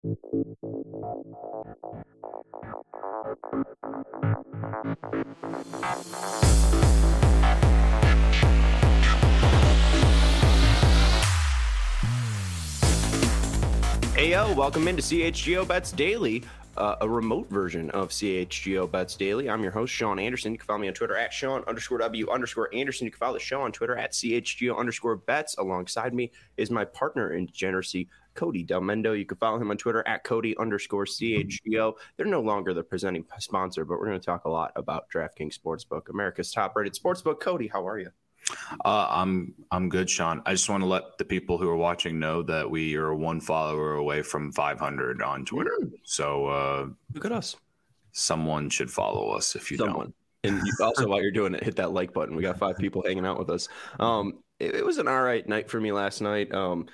Hey, yo, welcome into CHGO Bets Daily, a remote version of CHGO Bets Daily. I'm your host, Sean Anderson. You can follow me on Twitter at Sean_W_Anderson. You can follow the show on Twitter at CHGO_Bets. Alongside me is my partner in degeneracy, Cody Del Mendo. You can follow him on Twitter at Cody_CHGO. They're no longer the presenting sponsor, but we're going to talk a lot about DraftKings Sportsbook, America's top-rated sportsbook. Cody, how are you? I'm good, Sean. I just want to let the people who are watching know that we are one follower away from 500 on Twitter. So look at us. Someone should follow us if you don't. And also, while you're doing it, hit that like button. We got 5 people hanging out with us. It was an all right night for me last night.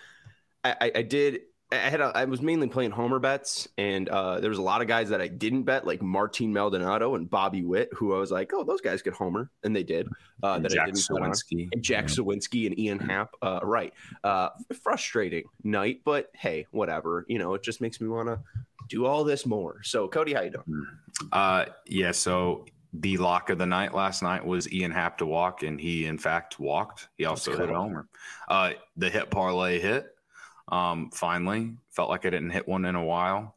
I was mainly playing homer bets, and there was a lot of guys that I didn't bet, like Martin Maldonado and Bobby Witt, who I was like, oh, those guys could homer, and they did. Jack Sawinski and Ian Happ. Right. Frustrating night, but hey, whatever. You know, it just makes me want to do all this more. So, Cody, how you doing? Yeah, so the lock of the night last night was Ian Happ to walk, and he, in fact, walked. He also hit a homer. The hit parlay hit. Finally, felt like I didn't hit one in a while.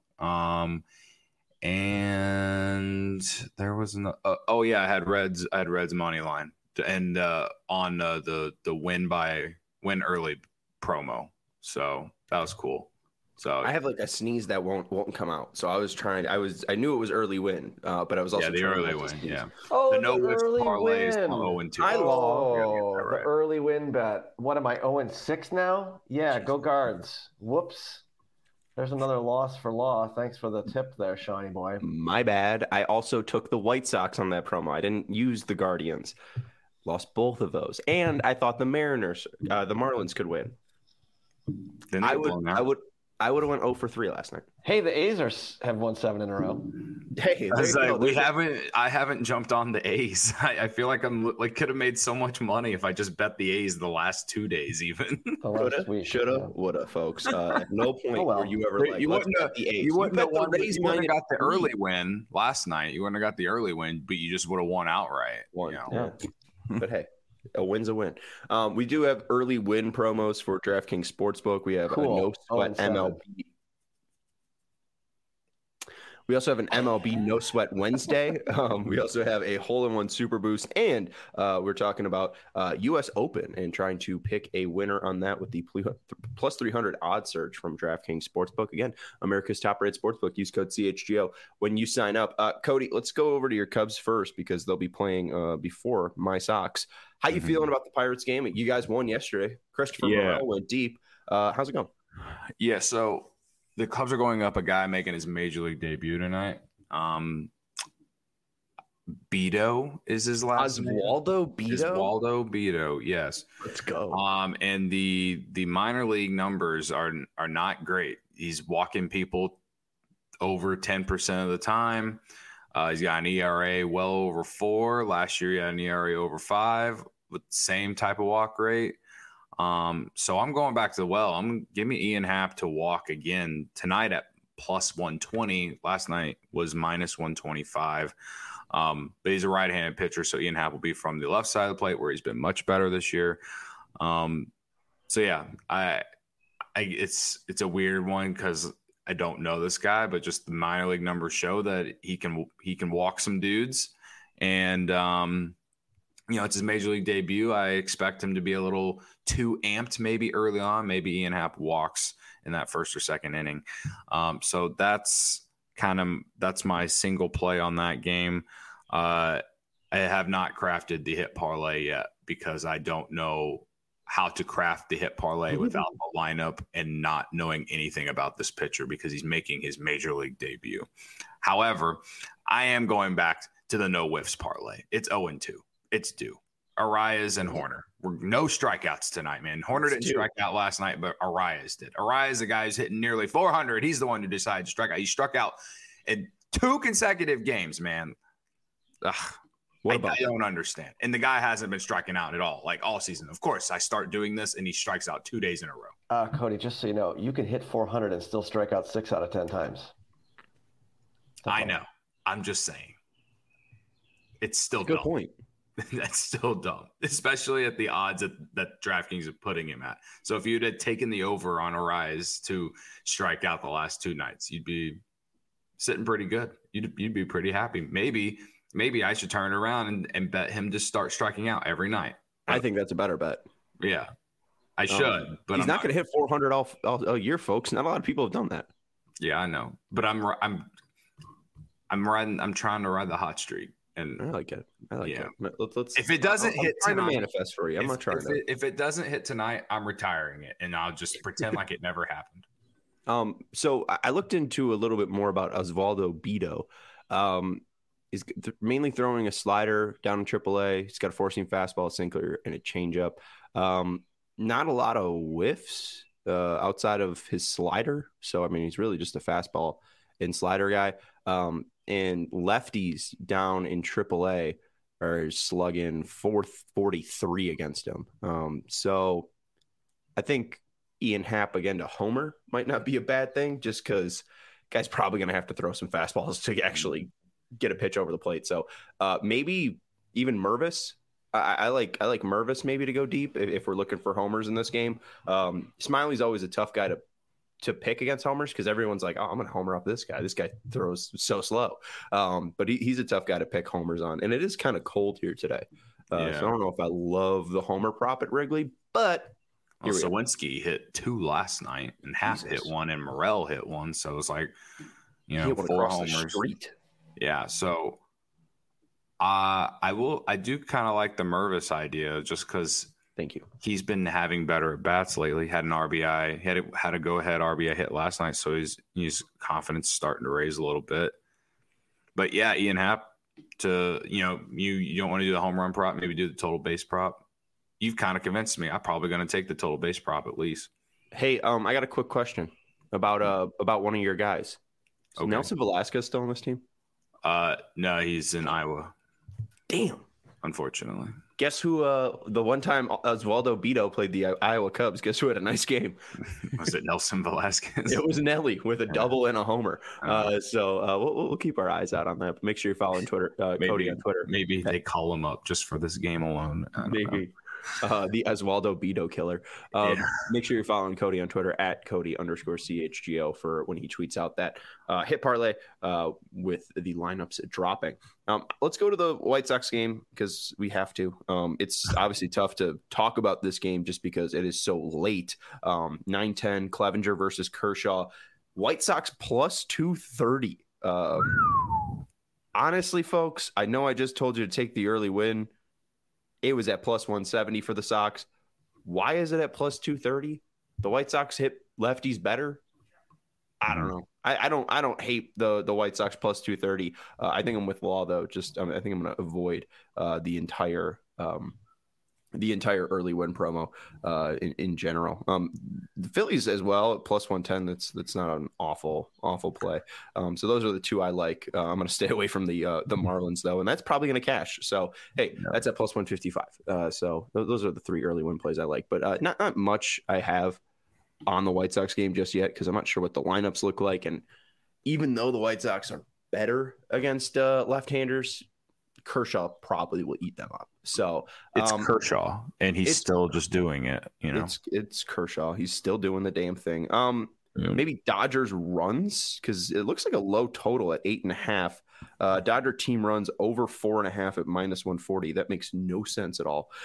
And there was I had Reds money line and on the win early promo. So that was cool. So I have like a sneeze that won't come out. So I knew it was early win, but I was also the early win. Yeah. Oh, the no risk early parlay is win. 0-2. The early win bet. What am I, 0-6 now? Yeah, go Guards. Whoops. There's another loss for Law. Thanks for the tip there, Shawnee boy. My bad. I also took the White Sox on that promo. I didn't use the Guardians. Lost both of those. And I thought the Marlins could win. I would have went 0 for 3 last night. Hey, the A's have won 7 in a row. Hey, I haven't jumped on the A's. I feel like could have made so much money if I just bet the A's the last 2 days even. Shoulda, woulda, folks. At no point were you ever like, you wouldn't have got the early win last night. You wouldn't have got the early win, but you just would have won outright. Yeah. But hey. A win's a win. We do have early win promos for DraftKings Sportsbook. We have a no sweat MLB. We also have an MLB No Sweat Wednesday. We also have a hole-in-one Super Boost, and we're talking about U.S. Open and trying to pick a winner on that with the plus 300 odds search from DraftKings Sportsbook. Again, America's top-rated sportsbook. Use code CHGO when you sign up. Cody, let's go over to your Cubs first because they'll be playing before my Sox. How you feeling about the Pirates game? You guys won yesterday. Christopher Morel went deep. How's it going? Yeah, so the Cubs are going up a guy making his major league debut tonight. Beto is his last name. Oswaldo Beto? Oswaldo Beto, yes. Let's go. And the minor league numbers are not great. He's walking people over 10% of the time. He's got an ERA well over 4. Last year he had an ERA over 5 with the same type of walk rate. So I'm going back to the well. Give me Ian Happ to walk again tonight at plus 120. Last night was minus 125. But he's a right-handed pitcher, so Ian Happ will be from the left side of the plate where he's been much better this year. So yeah, it's a weird one because I don't know this guy, but just the minor league numbers show that he can walk some dudes, and it's his major league debut. I expect him to be a little too amped maybe early on. Maybe Ian Happ walks in that first or second inning. So that's my single play on that game. I have not crafted the hit parlay yet because I don't know how to craft the hit parlay without the lineup and not knowing anything about this pitcher because he's making his major league debut. However, I am going back to the no whiffs parlay. It's 0-2. It's due. Arias and Horner. No strikeouts tonight, man. Horner didn't strike out last night, but Arias did. Arias, the guy who's hitting nearly 400. He's the one who decided to strike out. He struck out in 2 consecutive games, man. Ugh. What about I don't understand. And the guy hasn't been striking out at all, like all season. Of course, I start doing this and he strikes out 2 days in a row. Cody, just so you know, you can hit 400 and still strike out 6 out of 10 times. I know. I'm just saying. It's still good dumb. point. That's still dumb, especially at the odds that DraftKings is putting him at. So if you'd have taken the over on Arise to strike out the last 2 nights, you'd be sitting pretty good. You'd be pretty happy. Maybe I should turn it around and bet him to start striking out every night. I think that's a better bet. Yeah, I should. But he's not going to hit 400 all year, folks. Not a lot of people have done that. Yeah, I know. But I'm trying to ride the hot streak. And I like it. Let's, if it doesn't hit tonight, tonight, to manifest for you. I'm not trying to. If it doesn't hit tonight, I'm retiring it, and I'll just pretend like it never happened. So I looked into a little bit more about Osvaldo Bido. He's mainly throwing a slider down in AAA. He's got a four-seam fastball, a sinker, and a changeup. Not a lot of whiffs outside of his slider. So I mean, he's really just a fastball and slider guy. And lefties down in AAA are slugging 443 against him. So I think Ian Happ again to homer might not be a bad thing, just because guy's probably going to have to throw some fastballs to actually get a pitch over the plate. So maybe even Mervis. I like Mervis maybe to go deep if we're looking for homers in this game. Smiley's always a tough guy to pick against homers because everyone's like, oh, I'm going to homer off this guy. This guy throws so slow. But he's a tough guy to pick homers on. And it is kind of cold here today. So I don't know if I love the homer prop at Wrigley, but Sawinski hit 2 last night and Happ hit 1 and Morel hit 1. So it's like, 4 homers. Yeah. So I do kind of like the Mervis idea just because thank you. He's been having better at bats lately. Had an RBI, had a go ahead RBI hit last night, so his confidence starting to raise a little bit. But yeah, Ian Happ to you don't want to do the home run prop, maybe do the total base prop. You've kind of convinced me. I'm probably going to take the total base prop at least. Hey, I got a quick about one of your guys. Is Nelson Velasquez still on this team? No, he's in Iowa. Damn. Unfortunately. Guess who the one time Osvaldo Bido played the Iowa Cubs, guess who had a nice game? Was it Nelson Velasquez? It was Nelly with a double and a homer. So we'll keep our eyes out on that. Make sure you're following Twitter, Cody on Twitter. Maybe they call him up just for this game alone. Maybe. The Osvaldo Bido killer. Make sure you're following Cody on Twitter at Cody_CHGO for when he tweets out that hit parlay with the lineups dropping. Let's go to the White Sox game because we have to. It's obviously tough to talk about this game just because it is so late. 9-10 Clevenger versus Kershaw. White Sox plus 230. Honestly, folks, I know I just told you to take the early win. It was at plus 170 for the Sox. Why is it at plus 230? The White Sox hit lefties better. I don't know. I don't hate the White Sox plus 230. I think I'm with Law though. I think I'm going to avoid the entire early win promo in general. The Phillies as well at plus 110. That's not an awful play. So those are the two I like. I'm going to stay away from the Marlins though, and that's probably going to cash. So hey, that's at plus 155. So those are the 3 early win plays I like, but not much I have on the White Sox game just yet because I'm not sure what the lineups look like. And even though the White Sox are better against left-handers, Kershaw probably will eat them up. So it's Kershaw, and he's still just doing it. It's Kershaw. He's still doing the damn thing. Maybe Dodgers runs because it looks like a low total at 8.5. Dodger team runs over 4.5 at minus 140. That makes no sense at all.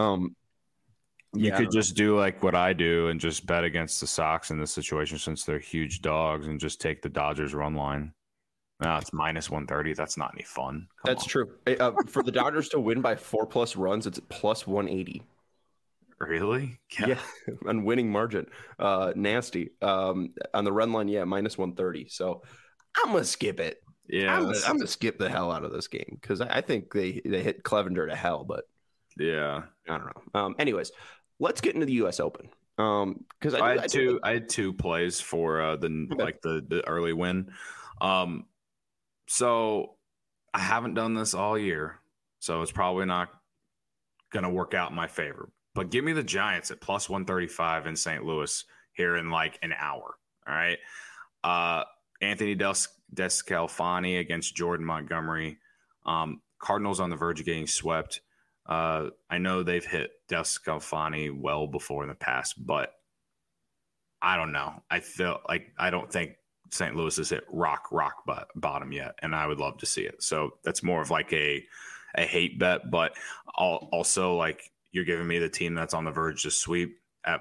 You could just do like what I do and just bet against the Sox in this situation since they're huge dogs and just take the Dodgers run line. No, it's minus 130. That's not any fun. That's true. For the Dodgers to win by 4+ runs, it's plus 180. Really? Yeah, on winning margin. Nasty. On the run line, minus 130. So I'm going to skip it. Yeah. I'm going to skip the hell out of this game because I think they hit Clevenger to hell, but yeah. I don't know. Anyways, let's get into the U.S. Open. Because I had two plays for the early win. So I haven't done this all year, So it's probably not going to work out in my favor. But give me the Giants at plus 135 in St. Louis here in like an hour. All right. Anthony Descalfani against Jordan Montgomery. Cardinals on the verge of getting swept. I know they've hit Descalfani well before in the past, but I don't know. I feel like I don't think St. Louis has hit rock bottom yet, and I would love to see it. So that's more of like a hate bet, but also like you're giving me the team that's on the verge to sweep at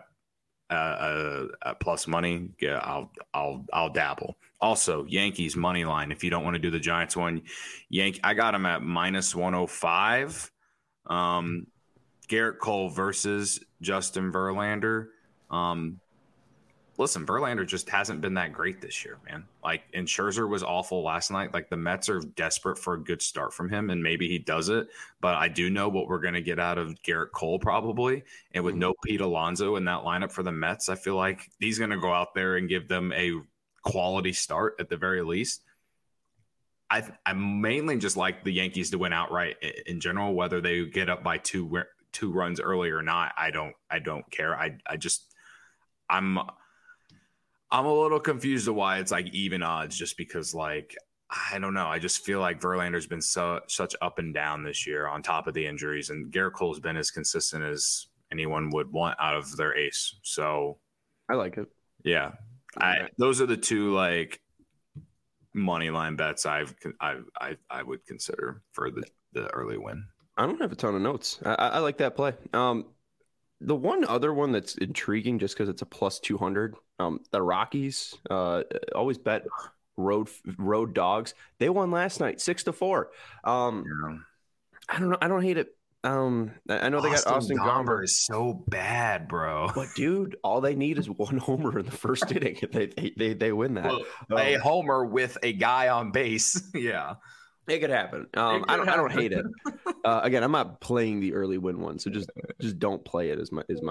plus money. Yeah, I'll dabble. Also, Yankees money line. If you don't want to do the Giants one, I got them at minus 105. Garrett Cole versus Justin Verlander. Listen, Verlander just hasn't been that great this year, man. Like, and Scherzer was awful last night. Like, the Mets are desperate for a good start from him, and maybe he does it. But I do know what we're going to get out of Garrett Cole probably. And with no Pete Alonso in that lineup for the Mets, I feel like he's going to go out there and give them a quality start at the very least. I mainly just like the Yankees to win outright in general, whether they get up by two runs early or not. I don't care. I'm a little confused of why it's like even odds, just because like I don't know. I just feel like Verlander's been such up and down this year on top of the injuries, and Garrett Cole's been as consistent as anyone would want out of their ace. So I like it. Yeah, those are the two like money line bets I would consider for the early win. I don't have a ton of notes. I like that play. The one other one that's intriguing, just because it's a plus 200, the Rockies always bet road dogs. They won last night 6-4. I don't know. I don't hate it. I know they got Austin Gomber. Is so bad, bro. But dude, all they need is one homer in the first inning. They win that. Well, a homer with a guy on base. Yeah. It could happen. I don't hate it. Again, I'm not playing the early win one, so just don't play it. Is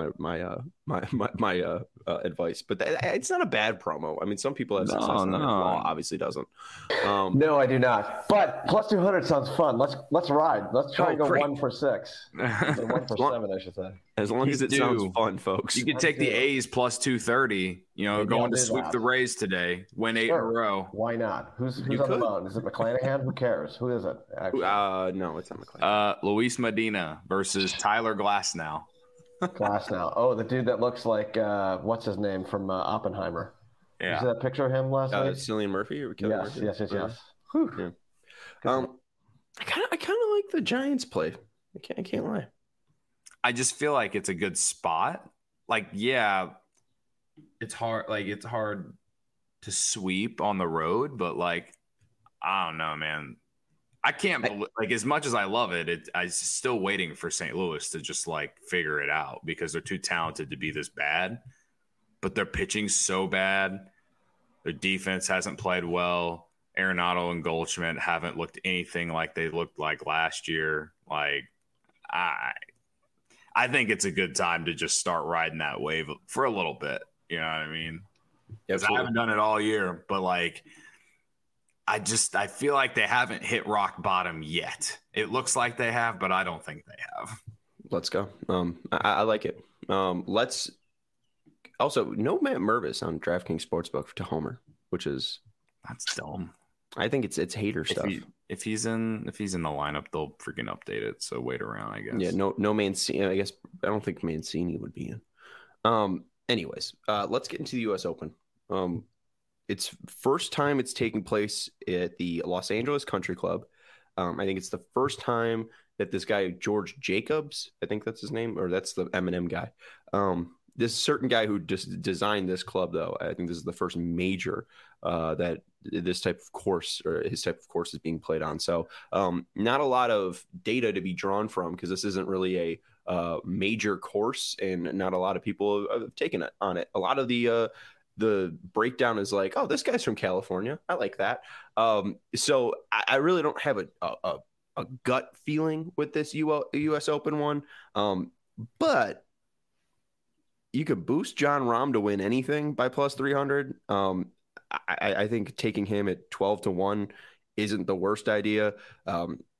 my advice. But it's not a bad promo. I mean, some people have success. No. Law obviously doesn't. No, I do not. But plus 200 sounds fun. Let's ride. Let's try and go 1 for 6. 1 for 7, I should say. As long as it sounds fun, folks. You could take the A's plus 230. Going to sweep the Rays today, win 8 in a row. Why not? Who's on the mound? Is it McClanahan? Who cares? Who is it? Actually? No, it's not McClanahan. Luis Medina versus Tyler Glasnow. Glasnow. Oh, the dude that looks like what's his name from Oppenheimer? Yeah. You see that picture of him last night? Cillian Murphy or Yes. Yeah. I kind of like the Giants play. I can't lie. I just feel like it's a good spot. Like, yeah, it's hard. Like, it's hard to sweep on the road, but like, I don't know, man. I can't believe, like, as much as I love it, I'm still waiting for St. Louis to just like figure it out, because they're too talented to be this bad. But their pitching's so bad. Their defense hasn't played well. Arenado and Goldschmidt haven't looked anything like they looked like last year. Like, I think it's a good time to just start riding that wave for a little bit. You know what I mean? Because I haven't done it all year, but like, I feel like they haven't hit rock bottom yet. It looks like they have, but I don't think they have. Let's go. I like it. Let's also no Matt Mervis on DraftKings Sportsbook to homer, that's dumb. I think it's hater stuff. If he's in the lineup, they'll freaking update it. So wait around, I guess. Yeah, no Mancini. I guess I don't think Mancini would be in. Anyways, let's get into the U.S. Open. It's first time it's taking place at the Los Angeles Country Club. I think it's the first time that this guy George Jacobs, I think that's his name, or that's the Eminem guy. This certain guy who just designed this club, though, I think this is the first major that this type of course or his type of course is being played on. So not a lot of data to be drawn from, because this isn't really a major course, and not a lot of people have taken it on it. A lot of the breakdown is like, oh, this guy's from California. I like that. So I really don't have a gut feeling with this U.S. Open one. But you could boost Jon Rahm to win anything by plus 300. I think taking him at 12-1 isn't the worst idea.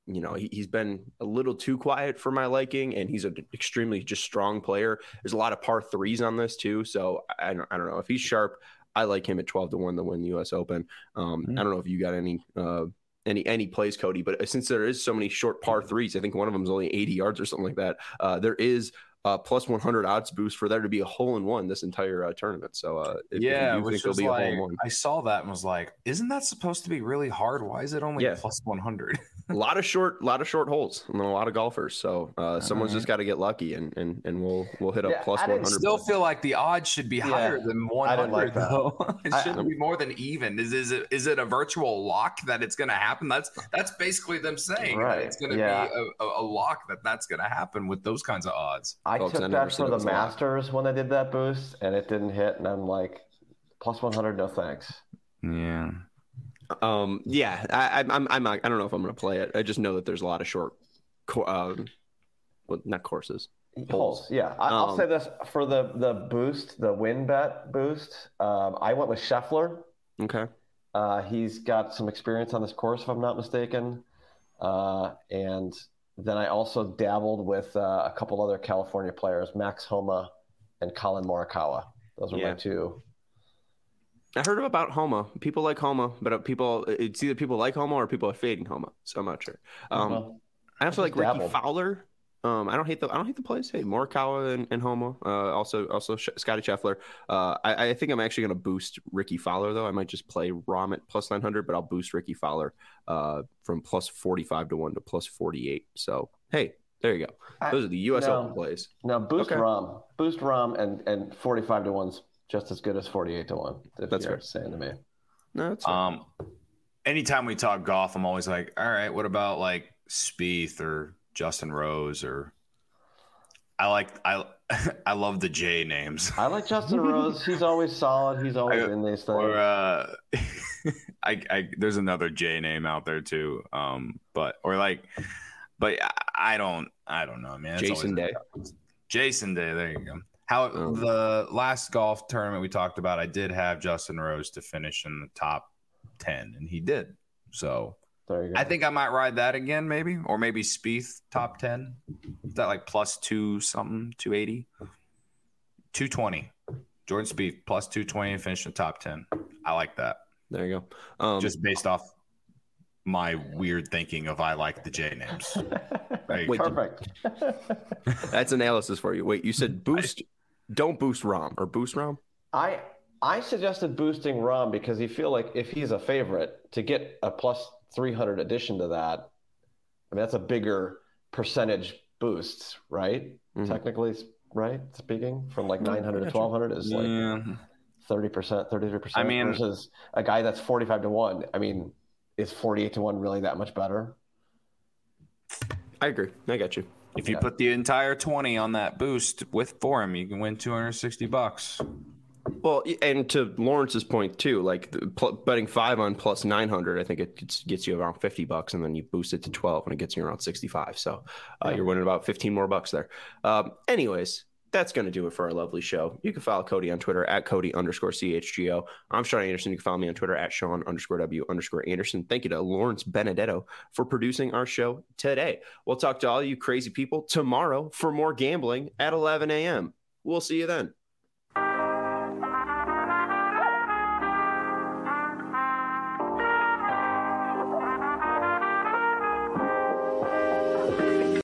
he's been a little too quiet for my liking, and he's an extremely just strong player. There's a lot of par threes on this too, so I don't know if he's sharp. I like him at 12-1 to win the U.S. Open. I don't know if you got any plays, Cody, but since there is so many short par threes, I think one of them is only 80 yards or something like that. There is plus 100 odds boost for there to be a hole in one this entire tournament. So if you think there'll be a hole in one, I saw that and was like, isn't that supposed to be really hard? Why is it only plus 100? a lot of short holes and a lot of golfers. So someone's just got to get lucky, and we'll hit up plus 100. I still feel like the odds should be higher than 100 though. It shouldn't be more than even. Is it a virtual lock that it's going to happen? That's basically them saying that it's going to be a lock that's going to happen with those kinds of odds. I took that for the Masters when I did that boost, and it didn't hit, and I'm like, plus 100, no thanks. Yeah. I'm not, I don't know if I'm going to play it. I just know that there's a lot of short, not courses, holes. Yeah, I'll say this for the boost, the win bet boost. I went with Scheffler. Okay. He's got some experience on this course, if I'm not mistaken, and then I also dabbled with a couple other California players, Max Homa and Colin Morikawa. Those are my two. I heard about Homa. People like Homa, but it's either people like Homa or people are fading Homa. So I'm not sure. I also like Ricky Fowler. I don't hate the plays. Hey, Morikawa and Homa. Also Scotty Scheffler. I think I'm actually going to boost Ricky Fowler though. I might just play Rahm at plus 900, but I'll boost Ricky Fowler from plus 45-1 to plus 48. So hey, there you go. Those are the U.S. Open plays. No, boost Rahm. Boost Rahm and 45-1's just as good as 48-1. That's fair saying to me. No, that's fair. Anytime we talk golf, I'm always like, all right, what about like Spieth or Justin Rose, or I love the J names. I like Justin Rose. He's always solid. He's always in these things. Or there's another J name out there too. But I don't know, man. Jason Day. Jason Day. There you go. The last golf tournament we talked about, I did have Justin Rose to finish in the top 10, and he did. So there you go. I think I might ride that again, maybe, or maybe Spieth top 10. Is that like plus 280, 220? Jordan Spieth plus 220 and finish in the top 10. I like that. There you go. Just based off my weird thinking of I like the J names. Wait, perfect. That's analysis for you. Wait, you said boost. Don't boost Rahm or boost Rahm. I suggested boosting Rahm because you feel like if he's a favorite to get a plus 300 addition to that, I mean that's a bigger percentage boost, right? Mm-hmm. Technically, right? Speaking from like 900 to 1200 is like 30%, 33%. I mean, versus a guy that's 45-1. I mean, is 48-1 really that much better? I agree. I got you. If you put the entire 20 on that boost for him, you can win $260. Well, and to Lawrence's point too, like betting 5 on plus 900, I think it gets you around $50, and then you boost it to 12, and it gets you around 65. So you're winning about 15 more bucks there. Anyways, that's going to do it for our lovely show. You can follow Cody on Twitter at Cody_CHGO. I'm Sean Anderson. You can follow me on Twitter at Sean_W_Anderson. Thank you to Lawrence Benedetto for producing our show today. We'll talk to all you crazy people tomorrow for more gambling at 11 a.m. We'll see you then.